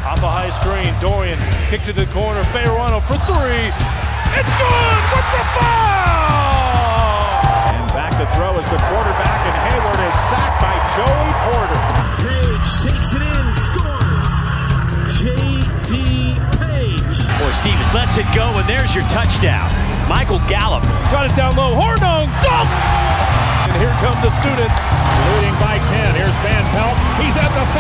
Off a high screen, Dorian kick to the corner, Fayerano for three. It's good with the foul! And back to throw is the quarterback, and Hayward is sacked by Joey Porter. Page takes it in, scores. J.D. Page. Boy, Stevens lets it go, and there's your touchdown. Michael Gallup. Got it down low, Hornung, dunk! And here come the students. Leading by 10, here's Van Pelt. He's at the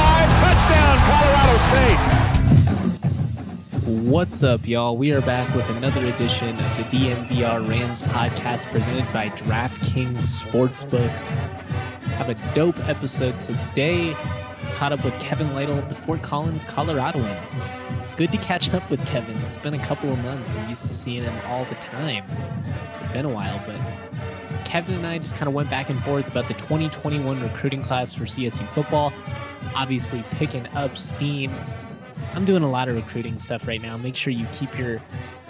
5, touchdown, Colorado State. What's up, y'all? We are back with another edition of the DNVR Rams podcast presented by DraftKings Sportsbook. Have a dope episode today. Caught up with Kevin Lytle of the Fort Collins, Coloradoan. Good to catch up with Kevin. It's been a couple of months. I'm used to seeing him all the time. It's been a while, but Kevin and I just kind of went back and forth about the 2021 recruiting class for CSU football. Obviously picking up steam. I'm doing a lot of recruiting stuff right now. Make sure you keep your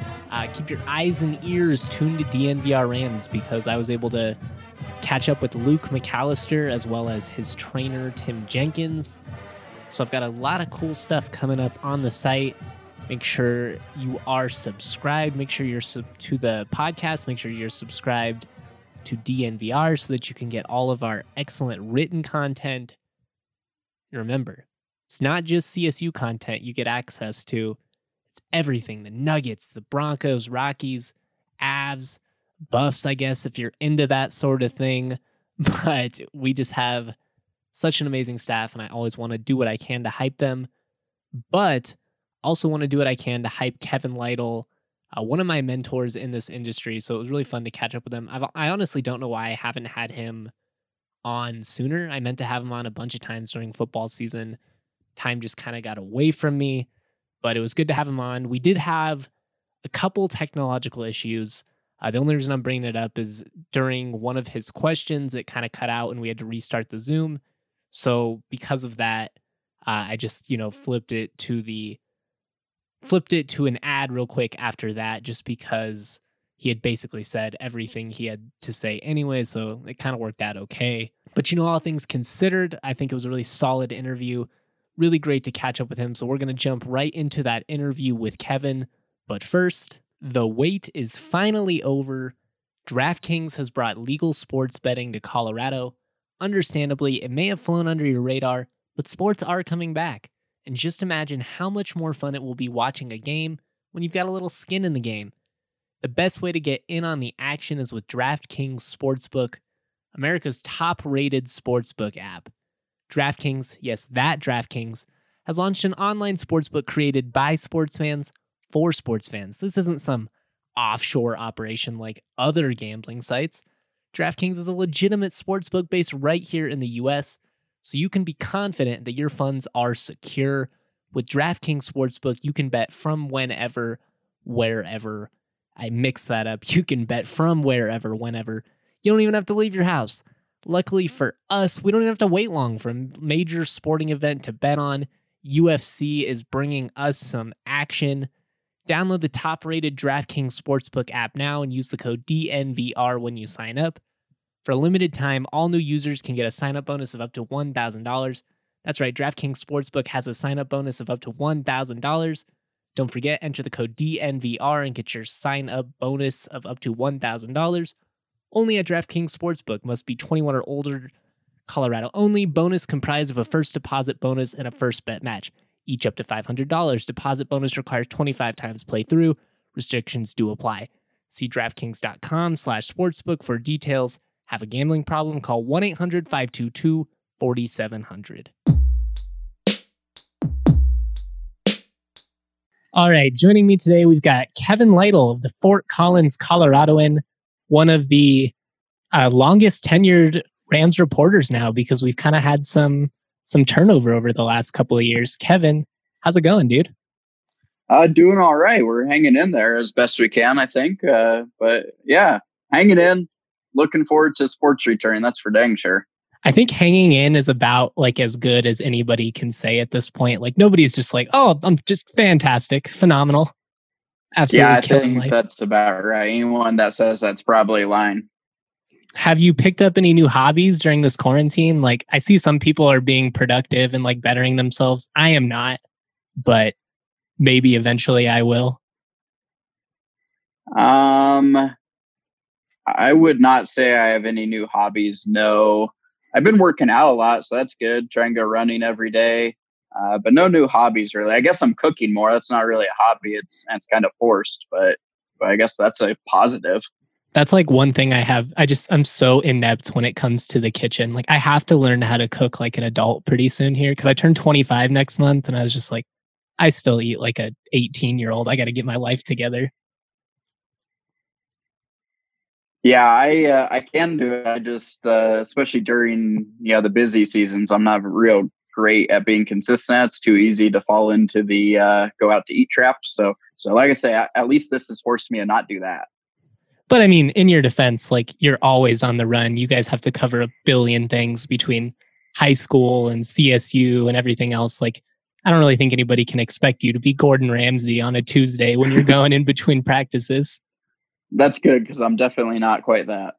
eyes and ears tuned to DNVR Rams, because I was able to catch up with Luke McAllister as well as his trainer, Tim Jenkins. So I've got a lot of cool stuff coming up on the site. Make sure you are subscribed. Make sure you're to the podcast. Make sure you're subscribed to DNVR so that you can get all of our excellent written content. And remember, it's not just CSU content you get access to. It's everything. The Nuggets, the Broncos, Rockies, Avs, Buffs, I guess, if you're into that sort of thing. But we just have such an amazing staff, and I always want to do what I can to hype them. But also want to do what I can to hype Kevin Lytle, one of my mentors in this industry. So it was really fun to catch up with him. I honestly don't know why I haven't had him on sooner. I meant to have him on a bunch of times during football season. Time just kind of got away from me, but it was good to have him on. We did have a couple technological issues. The only reason I'm bringing it up is during one of his questions, it kind of cut out and we had to restart the Zoom. So because of that, I just, flipped it to an ad real quick after that, just because he had basically said everything he had to say anyway. So it kind of worked out okay. But all things considered, I think it was a really solid interview. Really great to catch up with him. So we're going to jump right into that interview with Kevin. But first, the wait is finally over. DraftKings has brought legal sports betting to Colorado. Understandably, it may have flown under your radar, but sports are coming back. And just imagine how much more fun it will be watching a game when you've got a little skin in the game. The best way to get in on the action is with DraftKings Sportsbook, America's top-rated sportsbook app. DraftKings, yes, that DraftKings, has launched an online sportsbook created by sports fans for sports fans. This isn't some offshore operation like other gambling sites. DraftKings is a legitimate sportsbook based right here in the US, so you can be confident that your funds are secure. With DraftKings Sportsbook, you can bet from whenever, wherever. I mixed that up. You can bet from wherever, whenever. You don't even have to leave your house. Luckily for us, we don't even have to wait long for a major sporting event to bet on. UFC is bringing us some action. Download the top-rated DraftKings Sportsbook app now and use the code DNVR when you sign up. For a limited time, all new users can get a sign-up bonus of up to $1,000. That's right, DraftKings Sportsbook has a sign-up bonus of up to $1,000. Don't forget, enter the code DNVR and get your sign-up bonus of up to $1,000. Only at DraftKings Sportsbook. Must be 21 or older. Colorado only. Bonus comprised of a first deposit bonus and a first bet match, each up to $500. Deposit bonus requires 25 times playthrough. Restrictions do apply. See DraftKings.com/sportsbook for details. Have a gambling problem? Call 1-800-522-4700. All right, joining me today, we've got Kevin Lytle of the Fort Collins, Coloradoan, one of the longest tenured Rams reporters now, because we've kind of had some turnover over the last couple of years. Kevin, how's it going, dude? Doing all right. We're hanging in there as best we can, I think. But yeah, hanging in. Looking forward to sports return. That's for dang sure. I think hanging in is about as good as anybody can say at this point. Nobody's just oh, I'm just fantastic, phenomenal. Absolutely. Yeah, I think that's about right. Anyone that says that's probably lying. Have you picked up any new hobbies during this quarantine? I see some people are being productive and bettering themselves. I am not. but maybe eventually I will? I would not say I have any new hobbies. No, I've been working out a lot, so that's good. Try and go running every day. But no new hobbies really. I guess I'm cooking more. That's not really a hobby. It's kind of forced, but I guess that's a positive. That's like one thing I have. I'm so inept when it comes to the kitchen. Like I have to learn how to cook like an adult pretty soon here because I turn 25 next month, and I was just like, I still eat like a 18-year-old. I got to get my life together. Yeah, I can do it. I just especially during the busy seasons, I'm not real great at being consistent. It's too easy to fall into the go out to eat traps. So like I say, at least this has forced me to not do that. But I mean, in your defense, like you're always on the run. You guys have to cover a billion things between high school and CSU and everything else. Like I don't really think anybody can expect you to be Gordon Ramsay on a Tuesday when you're going in between practices. That's good because I'm definitely not quite that.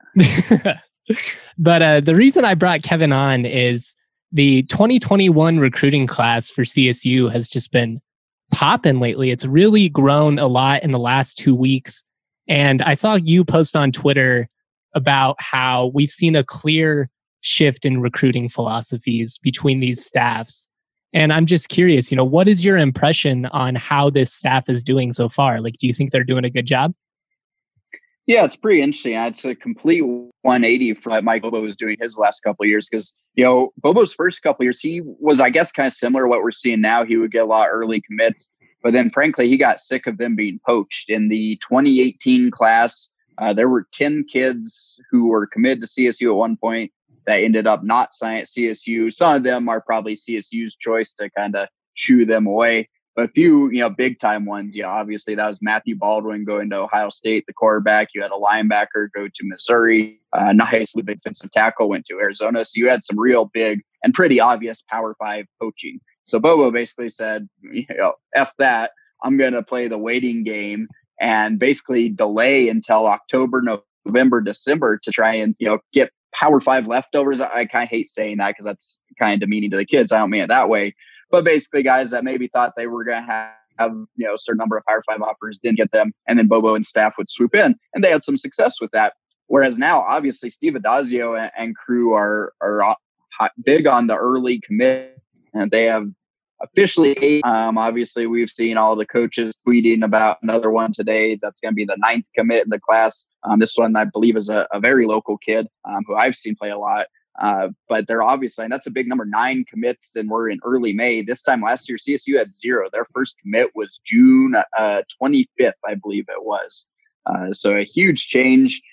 But the reason I brought Kevin on is the 2021 recruiting class for CSU has just been popping lately. It's really grown a lot in the last 2 weeks. And I saw you post on Twitter about how we've seen a clear shift in recruiting philosophies between these staffs. And I'm just curious, what is your impression on how this staff is doing so far? Like, do you think they're doing a good job? Yeah, it's pretty interesting. It's a complete 180 from what Mike Bobo was doing his last couple of years because, Bobo's first couple of years, he was, I guess, kind of similar to what we're seeing now. He would get a lot of early commits, but then frankly, he got sick of them being poached. In the 2018 class, there were 10 kids who were committed to CSU at one point that ended up not signing at CSU. Some of them are probably CSU's choice to kind of shoo them away. But a few, big time ones, obviously that was Matthew Baldwin going to Ohio State, the quarterback. You had a linebacker go to Missouri. Nice defensive tackle went to Arizona. So you had some real big and pretty obvious Power 5 poaching. So Bobo basically said, F that. I'm going to play the waiting game and basically delay until October, November, December to try and, get Power 5 leftovers. I kind of hate saying that because that's kind of demeaning to the kids. I don't mean it that way. But basically, guys that maybe thought they were going to have a certain number of Power 5 offers, didn't get them, and then Bobo and staff would swoop in, and they had some success with that. Whereas now, obviously, Steve Addazio and crew are big on the early commit, and they have officially 8. Obviously, we've seen all the coaches tweeting about another one today. That's going to be the 9th commit in the class. This one, I believe, is a very local kid who I've seen play a lot. But they're obviously, and that's a big number, 9 commits, and we're in early May. This time last year, CSU had 0. Their first commit was June 25th, I believe it was. So a huge change.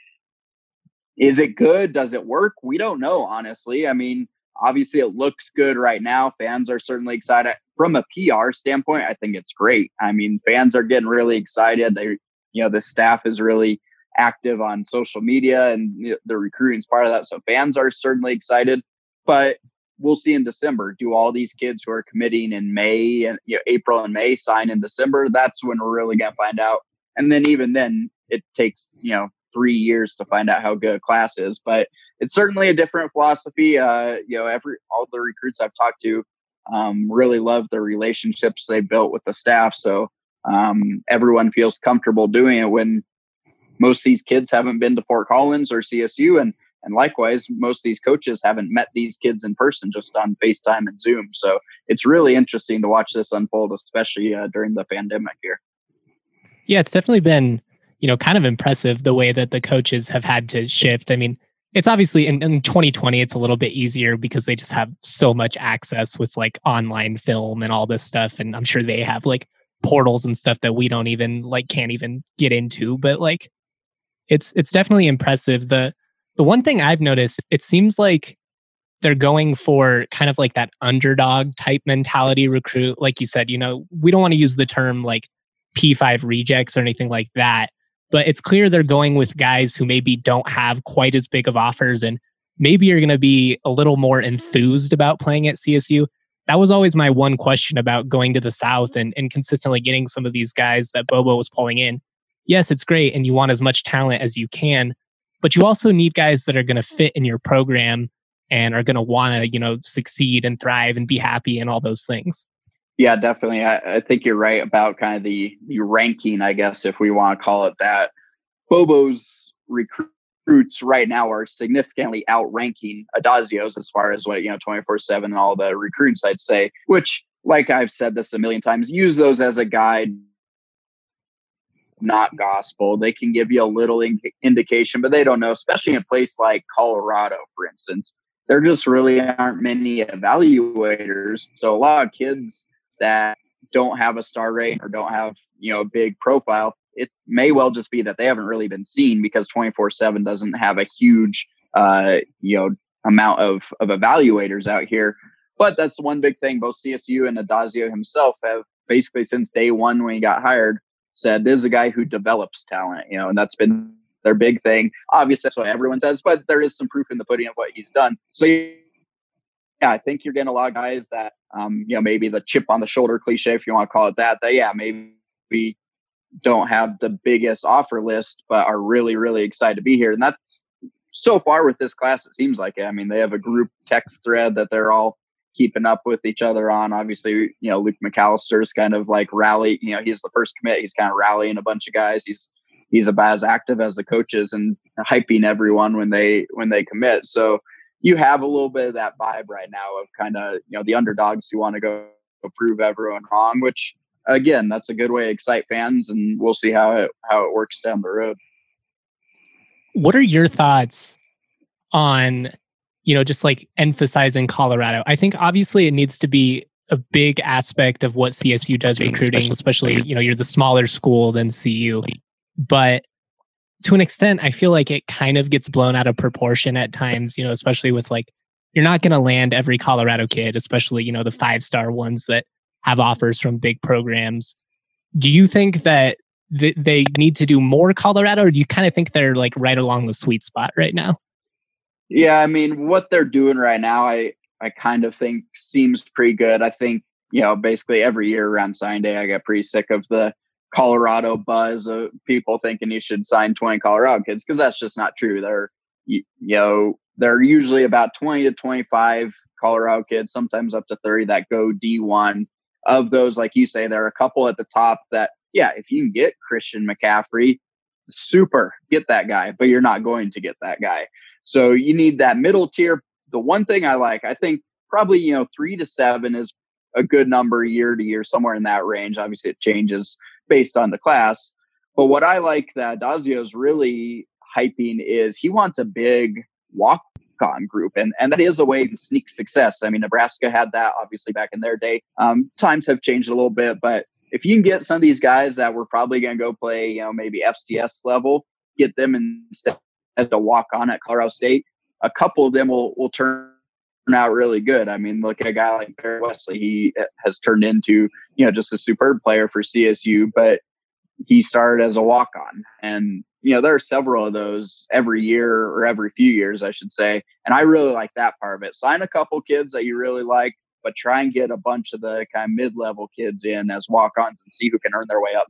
Is it good? Does it work? We don't know, honestly. I mean, obviously it looks good right now. Fans are certainly excited. From a PR standpoint, I think it's great. I mean, fans are getting really excited. The staff is really active on social media, and the recruiting is part of that. So fans are certainly excited, but we'll see in December. Do all these kids who are committing in May and April and May sign in December? That's when we're really going to find out. And then even then it takes, 3 years to find out how good a class is, but it's certainly a different philosophy. All the recruits I've talked to really love the relationships they built with the staff. So everyone feels comfortable doing it when most of these kids haven't been to Fort Collins or CSU. And likewise, most of these coaches haven't met these kids in person, just on FaceTime and Zoom. So it's really interesting to watch this unfold, especially during the pandemic here. Yeah, it's definitely been, kind of impressive the way that the coaches have had to shift. I mean, it's obviously in 2020, it's a little bit easier because they just have so much access with like online film and all this stuff. And I'm sure they have like portals and stuff that we don't even can't even get into, but like, it's definitely impressive. The one thing I've noticed, it seems like they're going for kind of like that underdog type mentality recruit. Like you said, we don't want to use the term like P5 rejects or anything like that, but it's clear they're going with guys who maybe don't have quite as big of offers and maybe you're going to be a little more enthused about playing at CSU. That was always my one question about going to the South and consistently getting some of these guys that Bobo was pulling in. Yes, it's great, and you want as much talent as you can, but you also need guys that are going to fit in your program and are going to want to, succeed and thrive and be happy and all those things. Yeah, definitely. I think you're right about kind of the ranking, I guess, if we want to call it that. Bobo's recruits right now are significantly outranking Adazio's as far as what, 24/7 and all the recruiting sites say, which, like I've said this a million times, use those as a guide, not gospel. They can give you a little indication, but they don't know, especially in a place like Colorado, for instance. There just really aren't many evaluators. So a lot of kids that don't have a star rating or don't have, a big profile, it may well just be that they haven't really been seen because 24/7 doesn't have a huge, amount of evaluators out here. But that's one big thing. Both CSU and Adazio himself have basically since day one when he got hired said, this is a guy who develops talent, and that's been their big thing. Obviously, that's what everyone says, but there is some proof in the pudding of what he's done. So, yeah, I think you're getting a lot of guys that, maybe the chip on the shoulder cliche, if you want to call it that, maybe we don't have the biggest offer list, but are really, really excited to be here. And that's so far with this class, it seems like it. I mean, they have a group text thread that they're all keeping up with each other on. Obviously, Luke McAllister's kind of like rally, he's the first commit. He's kind of rallying a bunch of guys. He's about as active as the coaches and hyping everyone when they commit. So you have a little bit of that vibe right now of kind of, the underdogs who want to go prove everyone wrong, which again, that's a good way to excite fans, and we'll see how it works down the road. What are your thoughts on, just like emphasizing Colorado? I think obviously it needs to be a big aspect of what CSU does recruiting, especially, you're the smaller school than CU. But to an extent, I feel like it kind of gets blown out of proportion at times, especially with like, you're not going to land every Colorado kid, especially, the 5-star ones that have offers from big programs. Do you think that they need to do more Colorado, or do you kind of think they're like right along the sweet spot right now? Yeah, I mean, what they're doing right now, I kind of think seems pretty good. I think, basically every year around sign day, I get pretty sick of the Colorado buzz of people thinking you should sign 20 Colorado kids, because that's just not true. They're usually about 20 to 25 Colorado kids, sometimes up to 30 that go D1. Of those, like you say, there are a couple at the top that, yeah, if you can get Christian McCaffrey, super, get that guy, but you're not going to get that guy. So you need that middle tier. The one thing I think probably, 3 to 7 is a good number year to year, somewhere in that range. Obviously it changes based on the class. But what I like that Adazio is really hyping is he wants a big walk-on group. And that is a way to sneak success. I mean, Nebraska had that obviously back in their day. Times have changed a little bit, but if you can get some of these guys that were probably going to go play, maybe FCS level, get them instead to walk on at Colorado State, a couple of them will turn out really good. I mean, look at a guy like Barry Wesley. He has turned into, just a superb player for CSU, but he started as a walk-on. And, there are several of those every year or every few years, I should say. And I really like that part of it. Sign a couple kids that you really like, but try and get a bunch of the kind of mid-level kids in as walk-ons and see who can earn their way up.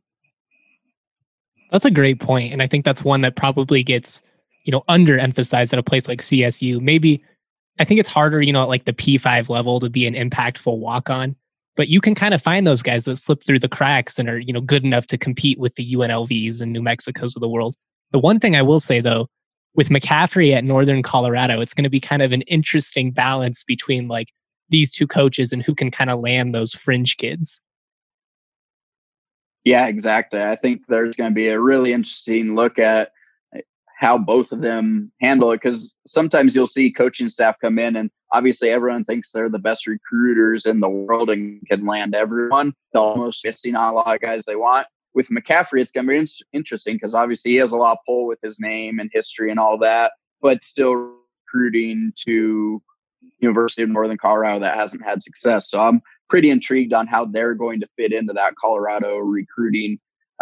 That's a great point. And I think that's one that probably gets, underemphasized at a place like CSU. Maybe I think it's harder, at like the P5 level to be an impactful walk-on, but you can kind of find those guys that slip through the cracks and are, good enough to compete with the UNLVs and New Mexicos of the world. The one thing I will say though, with McCaffrey at Northern Colorado, it's going to be kind of an interesting balance between like these two coaches and who can kind of land those fringe kids. Yeah, exactly. I think there's going to be a really interesting look at how both of them handle it, because sometimes you'll see coaching staff come in and obviously everyone thinks they're the best recruiters in the world and can land everyone. They're almost missing on a lot of guys they want. With McCaffrey, it's going to be interesting because obviously he has a lot of pull with his name and history and all that, but still recruiting to University of Northern Colorado that hasn't had success. So I'm pretty intrigued on how they're going to fit into that Colorado recruiting,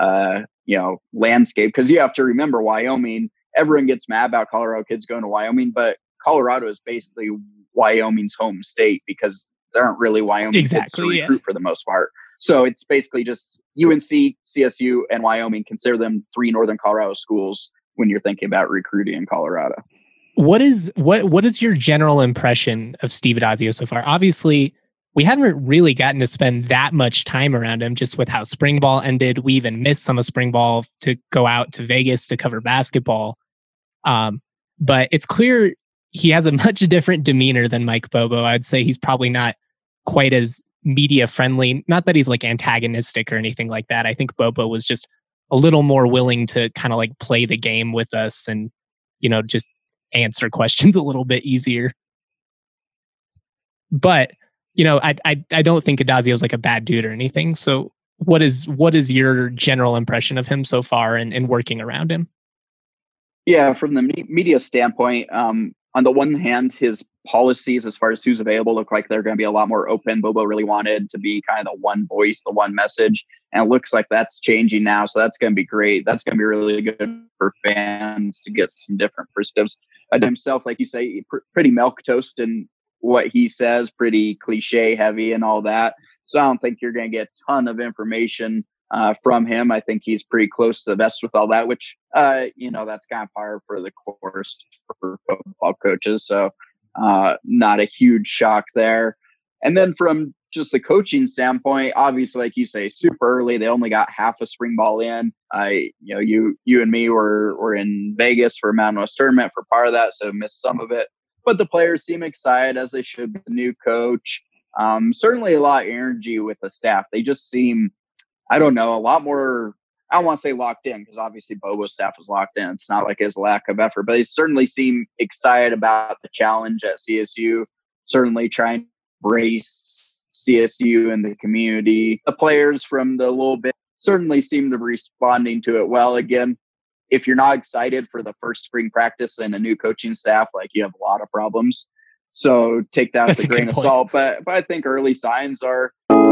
landscape. Because you have to remember, Wyoming, everyone gets mad about Colorado kids going to Wyoming, but Colorado is basically Wyoming's home state because there aren't really Wyoming kids to recruit for the most part. So it's basically just UNC, CSU, and Wyoming. Consider them 3 Northern Colorado schools when you're thinking about recruiting in Colorado. What is your general impression of Steve Adazio so far? Obviously, we haven't really gotten to spend that much time around him just with how spring ball ended. We even missed some of spring ball to go out to Vegas to cover basketball. But it's clear he has a much different demeanor than Mike Bobo. I'd say he's probably not quite as media friendly. Not that he's like antagonistic or anything like that. I think Bobo was just a little more willing to kind of like play the game with us and, just answer questions a little bit easier. But, I don't think Addazio's like a bad dude or anything. So what is your general impression of him so far and working around him? Yeah, from the media standpoint, on the one hand, his policies as far as who's available look like they're going to be a lot more open. Bobo really wanted to be kind of the one voice, the one message, and it looks like that's changing now. So that's going to be great. That's going to be really good for fans to get some different perspectives. Himself, like you say, pretty milquetoast in what he says, pretty cliche heavy and all that. So I don't think you're going to get a ton of information from him. I think he's pretty close to the vest with all that, which, that's kind of par for the course for football coaches. So not a huge shock there. And then from just the coaching standpoint, obviously, like you say, super early. They only got half a spring ball in. You and me were in Vegas for Mountain West tournament for part of that, so missed some of it. But the players seem excited, as they should, the new coach. Certainly a lot of energy with the staff. They just seem, a lot more, I don't want to say locked in, because obviously Bobo's staff was locked in. It's not like his lack of effort, but they certainly seem excited about the challenge at CSU, certainly trying to embrace CSU and the community. The players from the little bit certainly seem to be responding to it well. Again, if you're not excited for the first spring practice and a new coaching staff, like, you have a lot of problems. So take that with a grain of salt. But I think early signs are.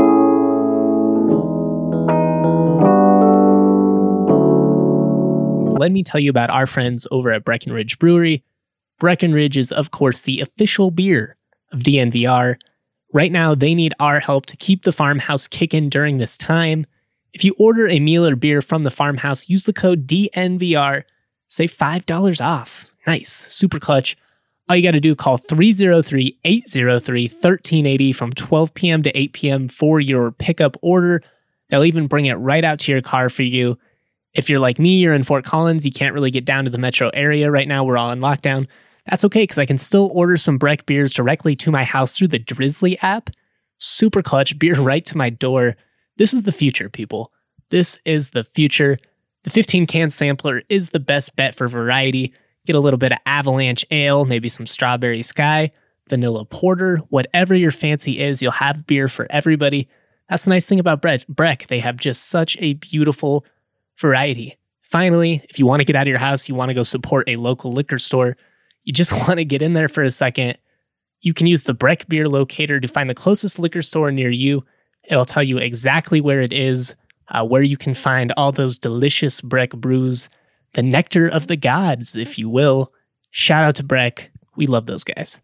Let me tell you about our friends over at Breckenridge Brewery. Breckenridge is, of course, the official beer of DNVR. Right now, they need our help to keep the farmhouse kicking during this time. If you order a meal or beer from the farmhouse, use the code DNVR, save $5 off. Nice, super clutch. All you got to do, call 303-803-1380 from 12 p.m. to 8 p.m. for your pickup order. They'll even bring it right out to your car for you. If you're like me, you're in Fort Collins, you can't really get down to the metro area right now. We're all in lockdown. That's okay, because I can still order some Breck beers directly to my house through the Drizzly app. Super clutch, beer right to my door. This is the future, people. This is the future. The 15-can sampler is the best bet for variety. Get a little bit of Avalanche Ale, maybe some Strawberry Sky, Vanilla Porter, whatever your fancy is, you'll have beer for everybody. That's the nice thing about Breck. They have just such a beautiful variety. Finally, if you want to get out of your house, you want to go support a local liquor store, you just want to get in there for a second, you can use the Breck Beer Locator to find the closest liquor store near you. It'll tell you exactly where it is, where you can find all those delicious Breck brews, the nectar of the gods, if you will. Shout out to Breck. We love those guys.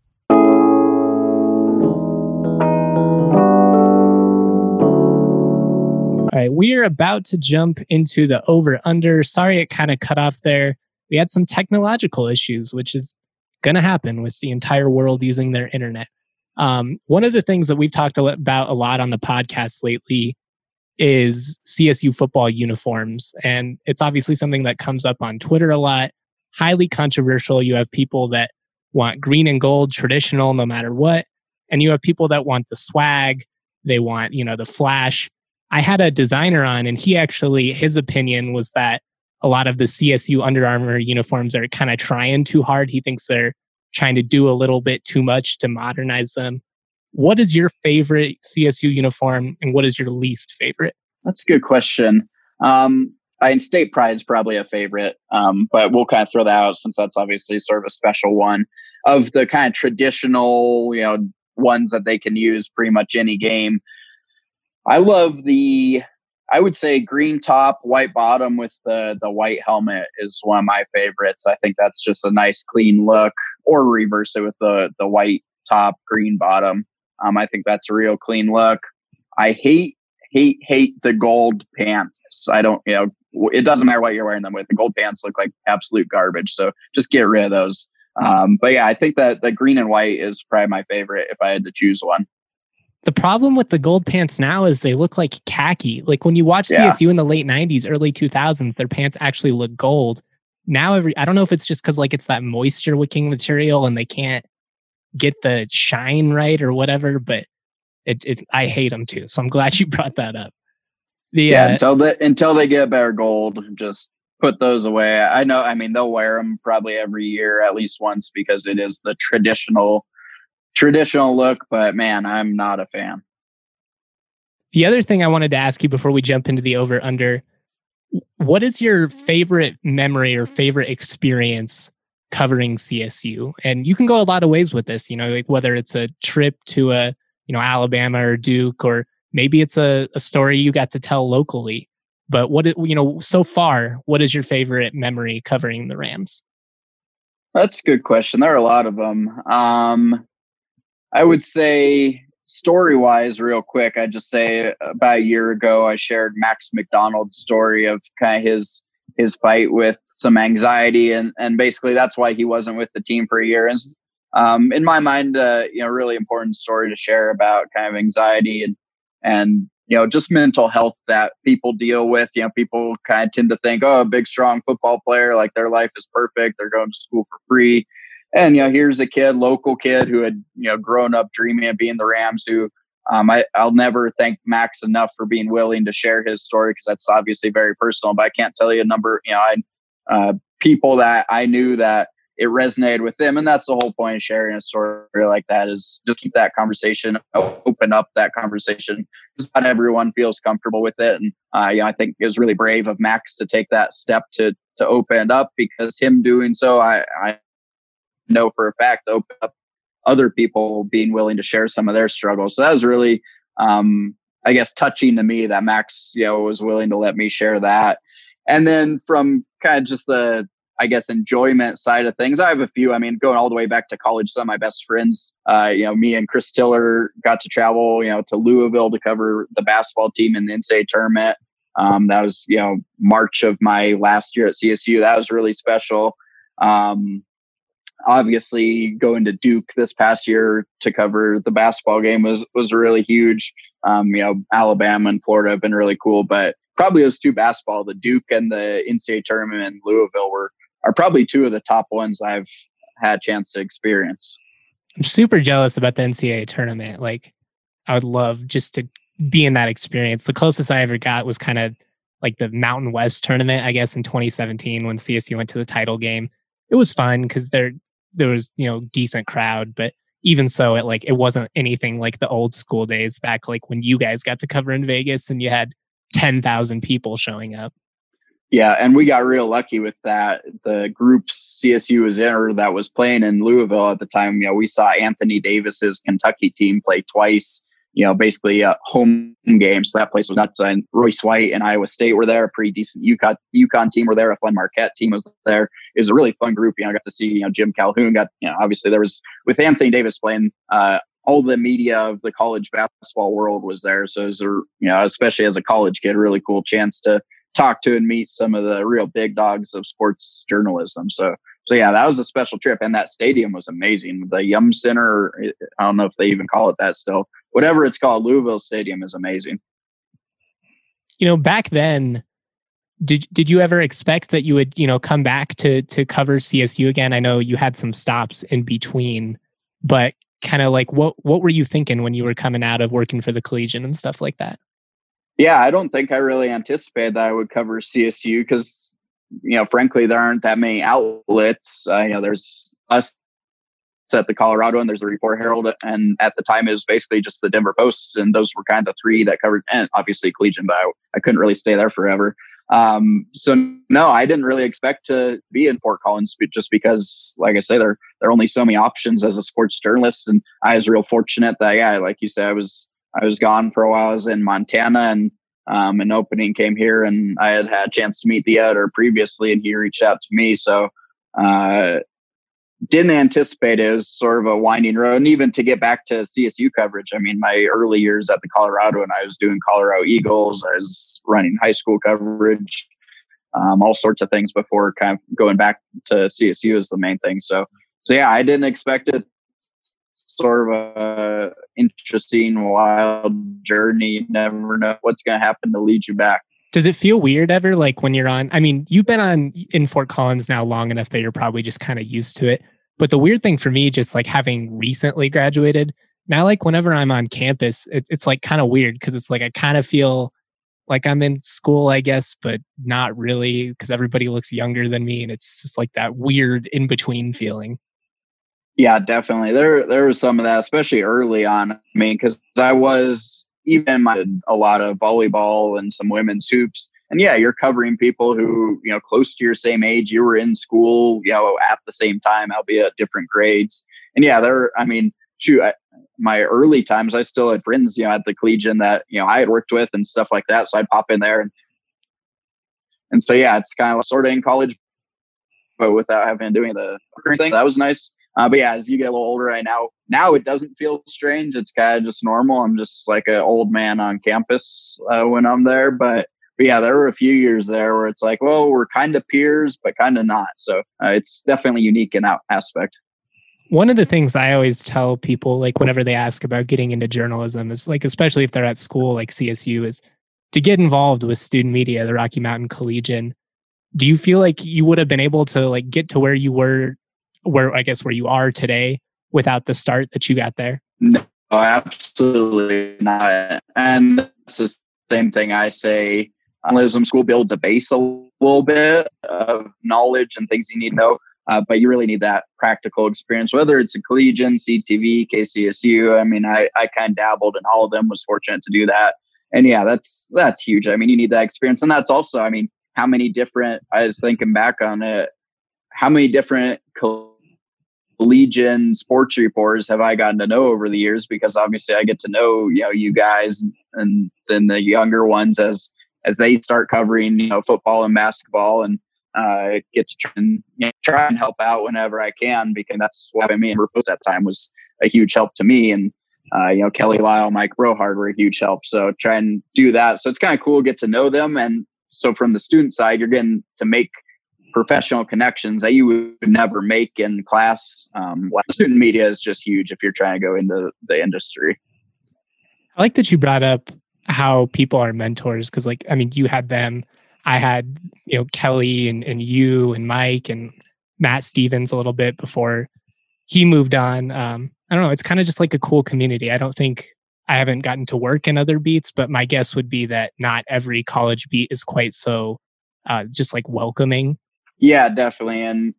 All right, we are about to jump into the over-under. Sorry it kind of cut off there. We had some technological issues, which is going to happen with the entire world using their internet. One of the things that we've talked about a lot on the podcast lately is CSU football uniforms. And it's obviously something that comes up on Twitter a lot. Highly controversial. You have people that want green and gold traditional no matter what. And you have people that want the swag. They want, the flash. I had a designer on, and his opinion was that a lot of the CSU Under Armour uniforms are kind of trying too hard. He thinks they're trying to do a little bit too much to modernize them. What is your favorite CSU uniform, and what is your least favorite? That's a good question. State Pride is probably a favorite, but we'll kind of throw that out since that's obviously sort of a special one. Of the kind of traditional, ones that they can use pretty much any game, I love I would say green top, white bottom with the white helmet is one of my favorites. I think that's just a nice, clean look. Or reverse it with the white top, green bottom. I think that's a real clean look. I hate the gold pants. I don't, it doesn't matter what you're wearing them with. The gold pants look like absolute garbage. So just get rid of those. But yeah, I think that the green and white is probably my favorite if I had to choose one. The problem with the gold pants now is they look like khaki. Like when you watch CSU in the late 90s, early 2000s, their pants actually look gold. Now I don't know if it's just because like it's that moisture wicking material and they can't get the shine right or whatever, but I hate them too. So I'm glad you brought that up. Until they get better gold, just put those away. I know. I mean, they'll wear them probably every year at least once because it is the traditional look, but man, I'm not a fan. The other thing I wanted to ask you before we jump into the over under, what is your favorite memory or favorite experience covering CSU? And you can go a lot of ways with this, like whether it's a trip to Alabama or Duke, or maybe it's a story you got to tell locally. But so far, what is your favorite memory covering the Rams? That's a good question. There are a lot of them. I would say story-wise, real quick, I'd just say about a year ago, I shared Max McDonald's story of kind of his fight with some anxiety, and basically that's why he wasn't with the team for a year. And in my mind, really important story to share about kind of anxiety and just mental health that people deal with. People kind of tend to think, oh, a big, strong football player, like their life is perfect. They're going to school for free. And, here's a local kid who had, grown up dreaming of being the Rams, who I'll never thank Max enough for being willing to share his story, because that's obviously very personal. But I can't tell you a number, people that I knew that it resonated with them. And that's the whole point of sharing a story like that, is just keep that conversation, open up that conversation, because not everyone feels comfortable with it. And I think it was really brave of Max to take that step to open it up, because him doing so, I know for a fact open up other people being willing to share some of their struggles. So that was really, I guess, touching to me that Max, was willing to let me share that. And then from kind of just the, I guess, enjoyment side of things, I have a few. I mean, going all the way back to college, some of my best friends, me and Chris Tiller got to travel, to Louisville to cover the basketball team in the NCAA tournament. That was, March of my last year at CSU. That was really special. Obviously, going to Duke this past year to cover the basketball game was really huge. Alabama and Florida have been really cool, but probably those two basketball, the Duke and the NCAA tournament in Louisville, are probably two of the top ones I've had a chance to experience. I'm super jealous about the NCAA tournament. Like, I would love just to be in that experience. The closest I ever got was kind of like the Mountain West tournament, I guess, in 2017 when CSU went to the title game. It was fun because there was, decent crowd, but even so, it wasn't anything like the old school days back, like when you guys got to cover in Vegas and you had 10,000 people showing up. Yeah, and we got real lucky with that. The group CSU was in, or that was playing in Louisville at the time, we saw Anthony Davis's Kentucky team play twice, basically a home game. So that place was nuts. And Royce White and Iowa State were there. A pretty decent UConn team were there. A fun Marquette team was there. It was a really fun group. I got to see, Jim Calhoun got, obviously there was, with Anthony Davis playing, all the media of the college basketball world was there. So it was, especially as a college kid, a really cool chance to talk to and meet some of the real big dogs of sports journalism. So yeah, that was a special trip. And that stadium was amazing. The Yum Center, I don't know if they even call it that still. Whatever it's called, Louisville Stadium is amazing. Back then, did you ever expect that you would, come back to cover CSU again? I know you had some stops in between, but kind of like what were you thinking when you were coming out of working for the Collegian and stuff like that? Yeah, I don't think I really anticipated that I would cover CSU because, frankly, there aren't that many outlets. There's us at the Colorado, and there's the Report Herald, and at the time it was basically just the Denver Post, and those were kind of the three that covered, and obviously Collegian, but I couldn't really stay there forever. So no, I didn't really expect to be in Fort Collins just because, like I say, there are only so many options as a sports journalist, and I was real fortunate that, like you said, I was gone for a while. I was in Montana, and an opening came here, and I had a chance to meet the editor previously, and he reached out to me. So didn't anticipate it. It was sort of a winding road. And even to get back to CSU coverage, I mean, my early years at the Colorado, and I was doing Colorado Eagles, I was running high school coverage, all sorts of things before kind of going back to CSU is the main thing. So yeah, I didn't expect it sort of a interesting, wild journey. You never know what's going to happen to lead you back. Does it feel weird ever, like when you're on, I mean, you've been on in Fort Collins now long enough that you're probably just kind of used to it. But the weird thing for me, just like having recently graduated, now like whenever I'm on campus, it's like kind of weird because it's like I kind of feel like I'm in school, I guess, but not really because everybody looks younger than me. And it's just like that weird in-between feeling. Yeah, definitely. There was some of that, especially early on. I mean, because I was even a lot of volleyball and some women's hoops. And yeah, you're covering people who, close to your same age, you were in school, at the same time, albeit different grades. And yeah, my early times, I still had friends, at the Collegian that, I had worked with and stuff like that. So I'd pop in there. And so, yeah, it's kind of sort of in college, but without having to do the thing, that was nice. But yeah, as you get a little older right now it doesn't feel strange. It's kind of just normal. I'm just like an old man on campus when I'm there. But yeah, there were a few years there where it's like, well, we're kind of peers, but kind of not. So it's definitely unique in that aspect. One of the things I always tell people, like whenever they ask about getting into journalism, is like, especially if they're at school like CSU, is to get involved with student media, the Rocky Mountain Collegian. Do you feel like you would have been able to like get to where you were, where you are today without the start that you got there? No, absolutely not. And it's the same thing I say. Journalism school builds a base a little bit of knowledge and things you need to know, but you really need that practical experience, whether it's a Collegian, CTV, KCSU. I mean, I kind of dabbled in all of them, was fortunate to do that. And yeah, that's huge. I mean, you need that experience. And that's also, I mean, how many different, I was thinking back on it, how many different Collegian sports reporters have I gotten to know over the years? Because obviously I get to know, you guys and then the younger ones as they start covering, football and basketball, and get to try and help out whenever I can, because that's what me and Rufus at that time was a huge help to me. And, Kelly Lyle, Mike Brohard were a huge help. So try and do that. So it's kind of cool to get to know them. And so from the student side, you're getting to make professional connections that you would never make in class. Student media is just huge if you're trying to go into the industry. I like that you brought up how people are mentors, because like, I mean, you had them, I had, Kelly and you and Mike and Matt Stevens a little bit before he moved on. I don't know. It's kind of just like a cool community. I haven't gotten to work in other beats, but my guess would be that not every college beat is quite so just like welcoming. Yeah, definitely. And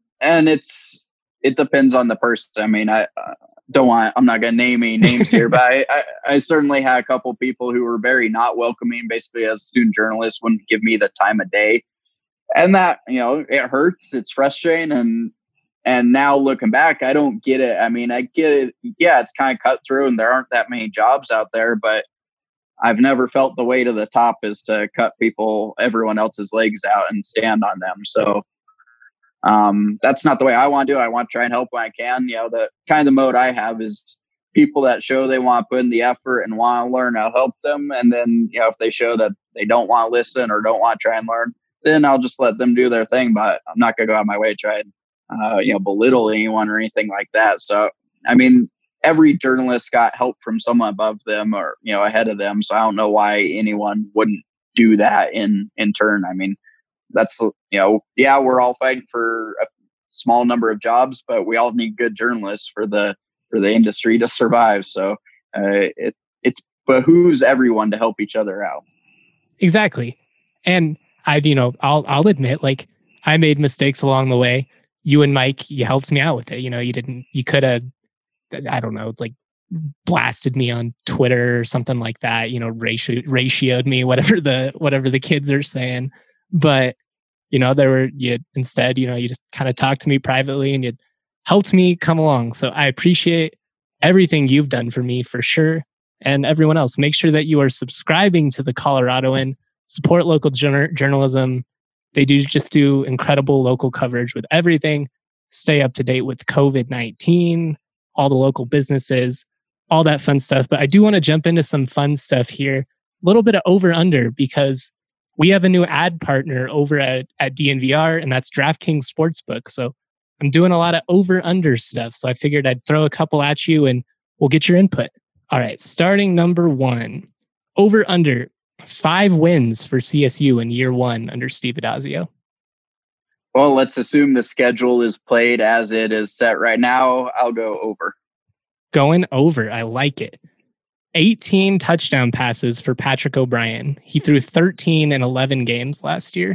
it depends on the person. I mean, I'm not going to name any names here, but I certainly had a couple people who were very not welcoming, basically as a student journalist, wouldn't give me the time of day. And that, it hurts. It's frustrating. And now looking back, I don't get it. I mean, I get it. Yeah, it's kind of cutthroat and there aren't that many jobs out there, but I've never felt the way to the top is to cut everyone else's legs out and stand on them. So that's not the way I want to do it. I want to try and help when I can. The kind of the mode I have is people that show they want to put in the effort and want to learn, I'll help them. And then, if they show that they don't want to listen or don't want to try and learn, then I'll just let them do their thing. But I'm not going to go out of my way to try and, belittle anyone or anything like that. So, I mean, every journalist got help from someone above them or, ahead of them. So I don't know why anyone wouldn't do that in turn. I mean, that's, we're all fighting for a small number of jobs, but we all need good journalists for the industry to survive. So it's behooves everyone to help each other out. Exactly. And I'll admit, like, I made mistakes along the way. You and Mike, you helped me out with it. You could have, I don't know, it's like blasted me on Twitter or something like that, ratioed me, whatever the kids are saying. But, you just kind of talked to me privately and you helped me come along. So I appreciate everything you've done for me for sure. And everyone else, make sure that you are subscribing to the Coloradoan, support local journalism. They do incredible local coverage with everything. Stay up to date with COVID-19, all the local businesses, all that fun stuff. But I do want to jump into some fun stuff here. A little bit of over-under, because we have a new ad partner over at DNVR, and that's DraftKings Sportsbook. So I'm doing a lot of over-under stuff. So I figured I'd throw a couple at you, and We'll get your input. All right, starting number 1. Over under 5 wins for CSU in year 1 under Steve Addazio. Well, let's assume the schedule is played as it is set right now. I'll go over. Going over. I like it. 18 touchdown passes for Patrick O'Brien. He threw 13 in 11 games last year.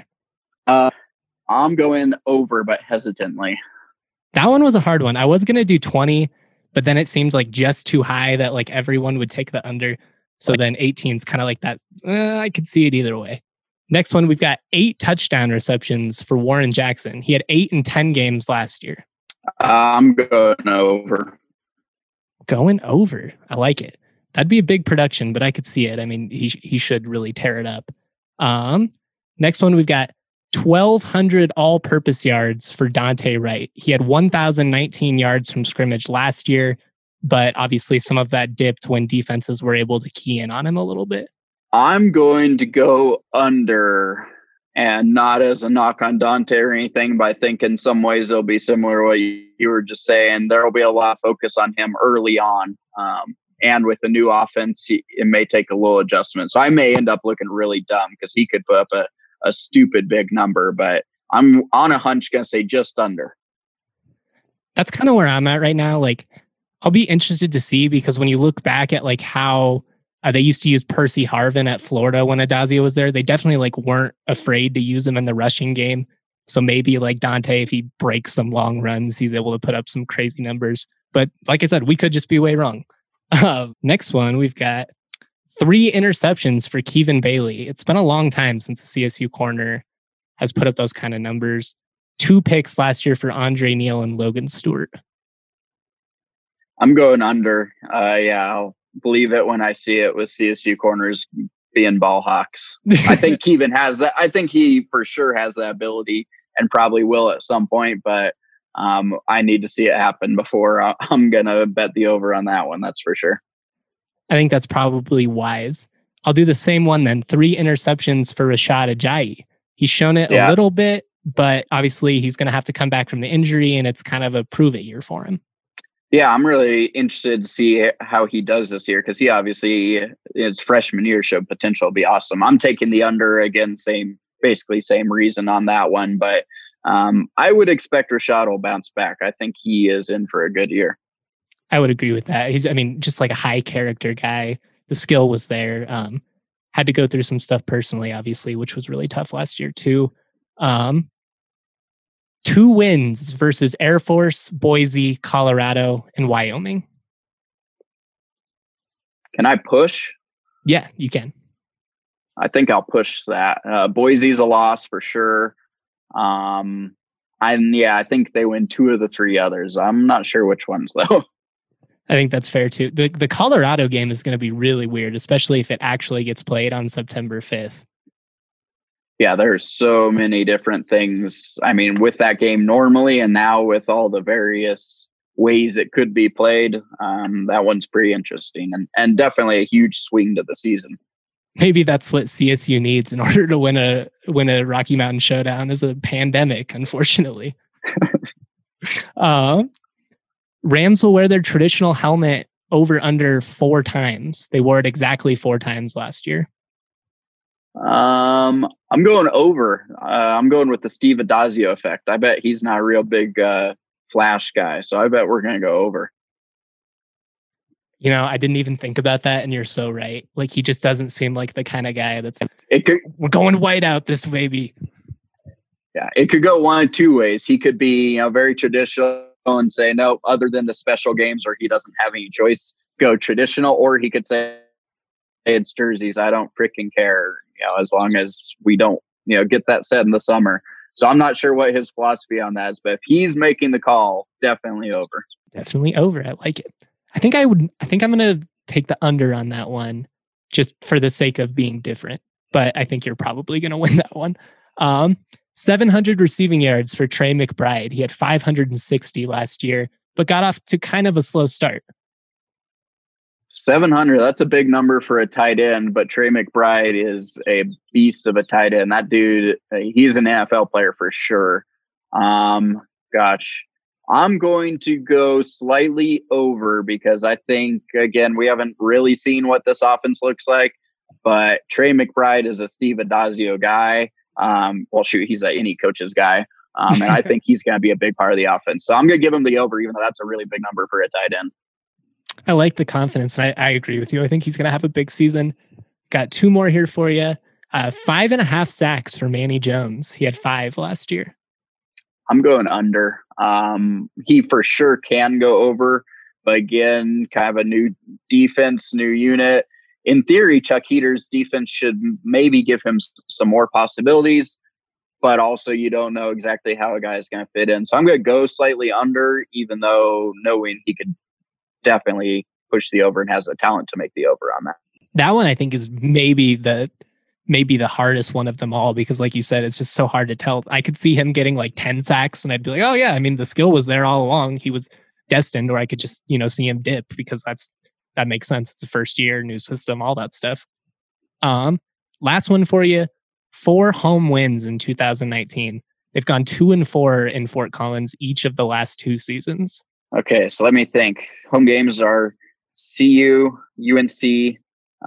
I'm going over, but hesitantly. That one was a hard one. I was going to do 20, but then it seemed like just too high that like everyone would take the under. So then 18 is kind of like that. I could see it either way. Next one, we've got 8 touchdown receptions for Warren Jackson. He had 8 in 10 games last year. I'm going over. Going over. I like it. That'd be a big production, but I could see it. I mean, he should really tear it up. Next one, we've got 1,200 all-purpose yards for Dante Wright. He had 1,019 yards from scrimmage last year, but obviously some of that dipped when defenses were able to key in on him a little bit. I'm going to go under, and not as a knock on Dante or anything, but I think in some ways it'll be similar to what you were just saying. There will be a lot of focus on him early on. And with the new offense, it may take a little adjustment. So I may end up looking really dumb because he could put up a stupid big number, but I'm on a hunch going to say just under. That's kind of where I'm at right now. Like, I'll be interested to see, because when you look back at like how they used to use Percy Harvin at Florida when Addazio was there, they definitely like weren't afraid to use him in the rushing game. So maybe like Dante, if he breaks some long runs, he's able to put up some crazy numbers. But like I said, we could just be way wrong. Next one, we've got 3 interceptions for Kevin Bailey. It's been a long time since the CSU corner has put up those kind of numbers. 2 picks last year for Andre Neal and Logan Stewart. I'm going under. I'll believe it when I see it with CSU corners being ball hawks. I think Kevin has that. I think he for sure has that ability and probably will at some point, but I need to see it happen before I'm going to bet the over on that one. That's for sure. I think that's probably wise. I'll do the same one then. 3 interceptions for Rashad Ajayi. He's shown it a little bit, but obviously he's going to have to come back from the injury, and it's kind of a prove-it year for him. Yeah, I'm really interested to see how he does this year, because he obviously, his freshman year showed potential to be awesome. I'm taking the under again, basically same reason on that one, but I would expect Rashad will bounce back. I think he is in for a good year. I would agree with that. He's, just like a high character guy. The skill was there. Had to go through some stuff personally, obviously, which was really tough last year too. 2 wins versus Air Force, Boise, Colorado, and Wyoming. Can I push? Yeah, you can. I think I'll push that. Boise's a loss for sure. I think they win 2 of the 3 others. I'm not sure which ones though. I think that's fair too. The Colorado game is going to be really weird, especially if it actually gets played on September 5th. Yeah, there's so many different things. I mean, with that game normally, and now with all the various ways it could be played, that one's pretty interesting and definitely a huge swing to the season. Maybe that's what CSU needs in order to win a Rocky Mountain Showdown, is a pandemic, unfortunately. Rams will wear their traditional helmet over under 4 times. They wore it exactly 4 times last year. I'm going over. I'm going with the Steve Addazio effect. I bet he's not a real big flash guy, so I bet we're going to go over. I didn't even think about that, and you're so right. Like, he just doesn't seem like the kind of guy that's we're going white out this baby. Yeah, it could go one of 2 ways. He could be very traditional and say, no, other than the special games where he doesn't have any choice, go traditional, or he could say, it's jerseys, I don't freaking care, as long as we don't, get that set in the summer. So I'm not sure what his philosophy on that is, but if he's making the call, definitely over. Definitely over. I like it. I think I'm going to take the under on that one just for the sake of being different, but I think you're probably going to win that one. 700 receiving yards for Trey McBride. He had 560 last year, but got off to kind of a slow start. 700, that's a big number for a tight end, but Trey McBride is a beast of a tight end. That dude, he's an NFL player for sure. I'm going to go slightly over because I think, again, we haven't really seen what this offense looks like, but Trey McBride is a Steve Addazio guy. He's any coach's guy. And I think he's going to be a big part of the offense. So I'm going to give him the over, even though that's a really big number for a tight end. I like the confidence, and I agree with you. I think he's going to have a big season. Got 2 more here for you. 5.5 sacks for Manny Jones. He had 5 last year. I'm going under. He for sure can go over, but again, kind of a new defense, new unit. In theory, Chuck Heater's defense should maybe give him some more possibilities, but also you don't know exactly how a guy is going to fit in. So I'm going to go slightly under, even though knowing he could definitely push the over and has the talent to make the over on that. That one I think is maybe the hardest one of them all, because like you said, it's just so hard to tell. I could see him getting like 10 sacks and I'd be like, oh yeah, I mean, the skill was there all along. He was destined. Or I could just, see him dip, because that makes sense. It's the first year, new system, all that stuff. Last one for you. 4 home wins in 2019. They've gone 2-4 in Fort Collins each of the last 2 seasons. Okay, so let me think. Home games are CU, UNC.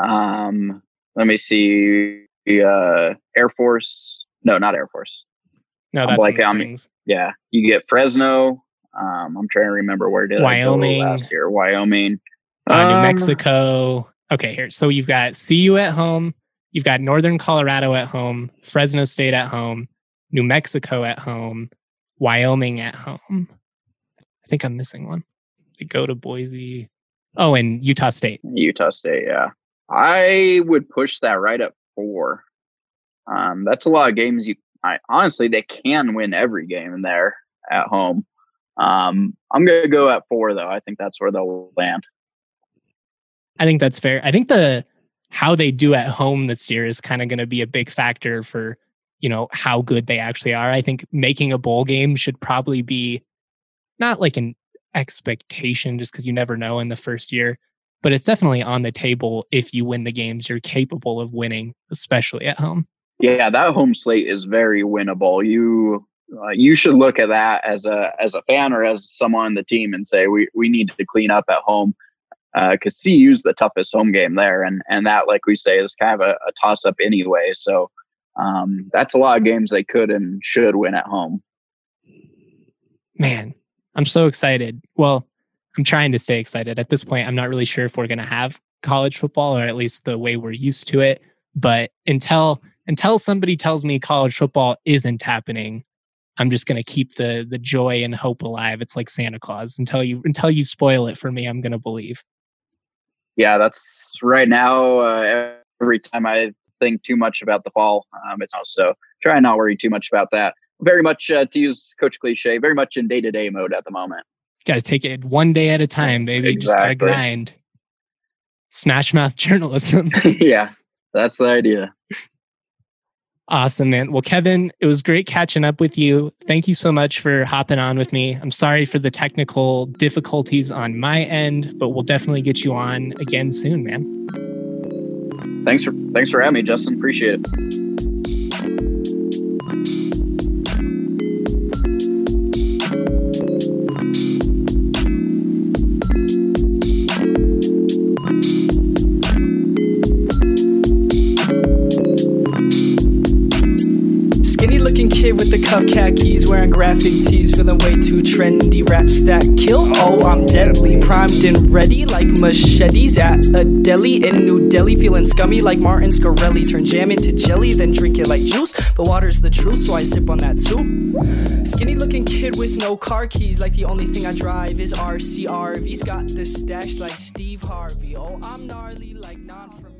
Let me see. Air Force. No, not Air Force. No, that's in the Springs. Yeah, you get Fresno. I'm trying to remember where did Wyoming. I go last year. Wyoming. New Mexico. Okay, here. So you've got CU at home. You've got Northern Colorado at home. Fresno State at home. New Mexico at home. Wyoming at home. I think I'm missing one. They go to Boise. Oh, and Utah State. Utah State, yeah. I would push that right at 4. That's a lot of games. Honestly, they can win every game in there at home. I'm going to go at 4, though. I think that's where they'll land. I think that's fair. I think how they do at home this year is kind of going to be a big factor for, how good they actually are. I think making a bowl game should probably be not like an expectation, just because you never know in the first year, but it's definitely on the table. If you win the games you're capable of winning, especially at home. Yeah, that home slate is very winnable. You should look at that as a fan or as someone on the team and say we need to clean up at home, because CU's the toughest home game there, and that, like we say, is kind of a toss up anyway. So that's a lot of games they could and should win at home. Man, I'm so excited. Well, I'm trying to stay excited. At this point, I'm not really sure if we're going to have college football, or at least the way we're used to it. But until somebody tells me college football isn't happening, I'm just going to keep the joy and hope alive. It's like Santa Claus. Until you spoil it for me, I'm going to believe. Yeah, that's right now. Every time I think too much about the fall, it's also try and not worry too much about that. Very much, to use Coach Cliche, very much in day-to-day mode at the moment. Got to take it one day at a time, baby. Exactly. Just got to grind. Smash mouth journalism. Yeah, that's the idea. Awesome, man. Well, Kevin, it was great catching up with you. Thank you so much for hopping on with me. I'm sorry for the technical difficulties on my end, but we'll definitely get you on again soon, man. Thanks for having me, Justin. Appreciate it. Kid with the cuff khakis, wearing graphic tees, feeling way too trendy. Raps that kill, oh I'm deadly. Primed and ready like machetes at a deli in New Delhi. Feeling scummy like Martin Scarelli. Turn jam into jelly, then drink it like juice. But water's the truth, so I sip on that too. Skinny looking kid with no car keys, like the only thing I drive is RCRV's. Got the stash like Steve Harvey. Oh I'm gnarly like non from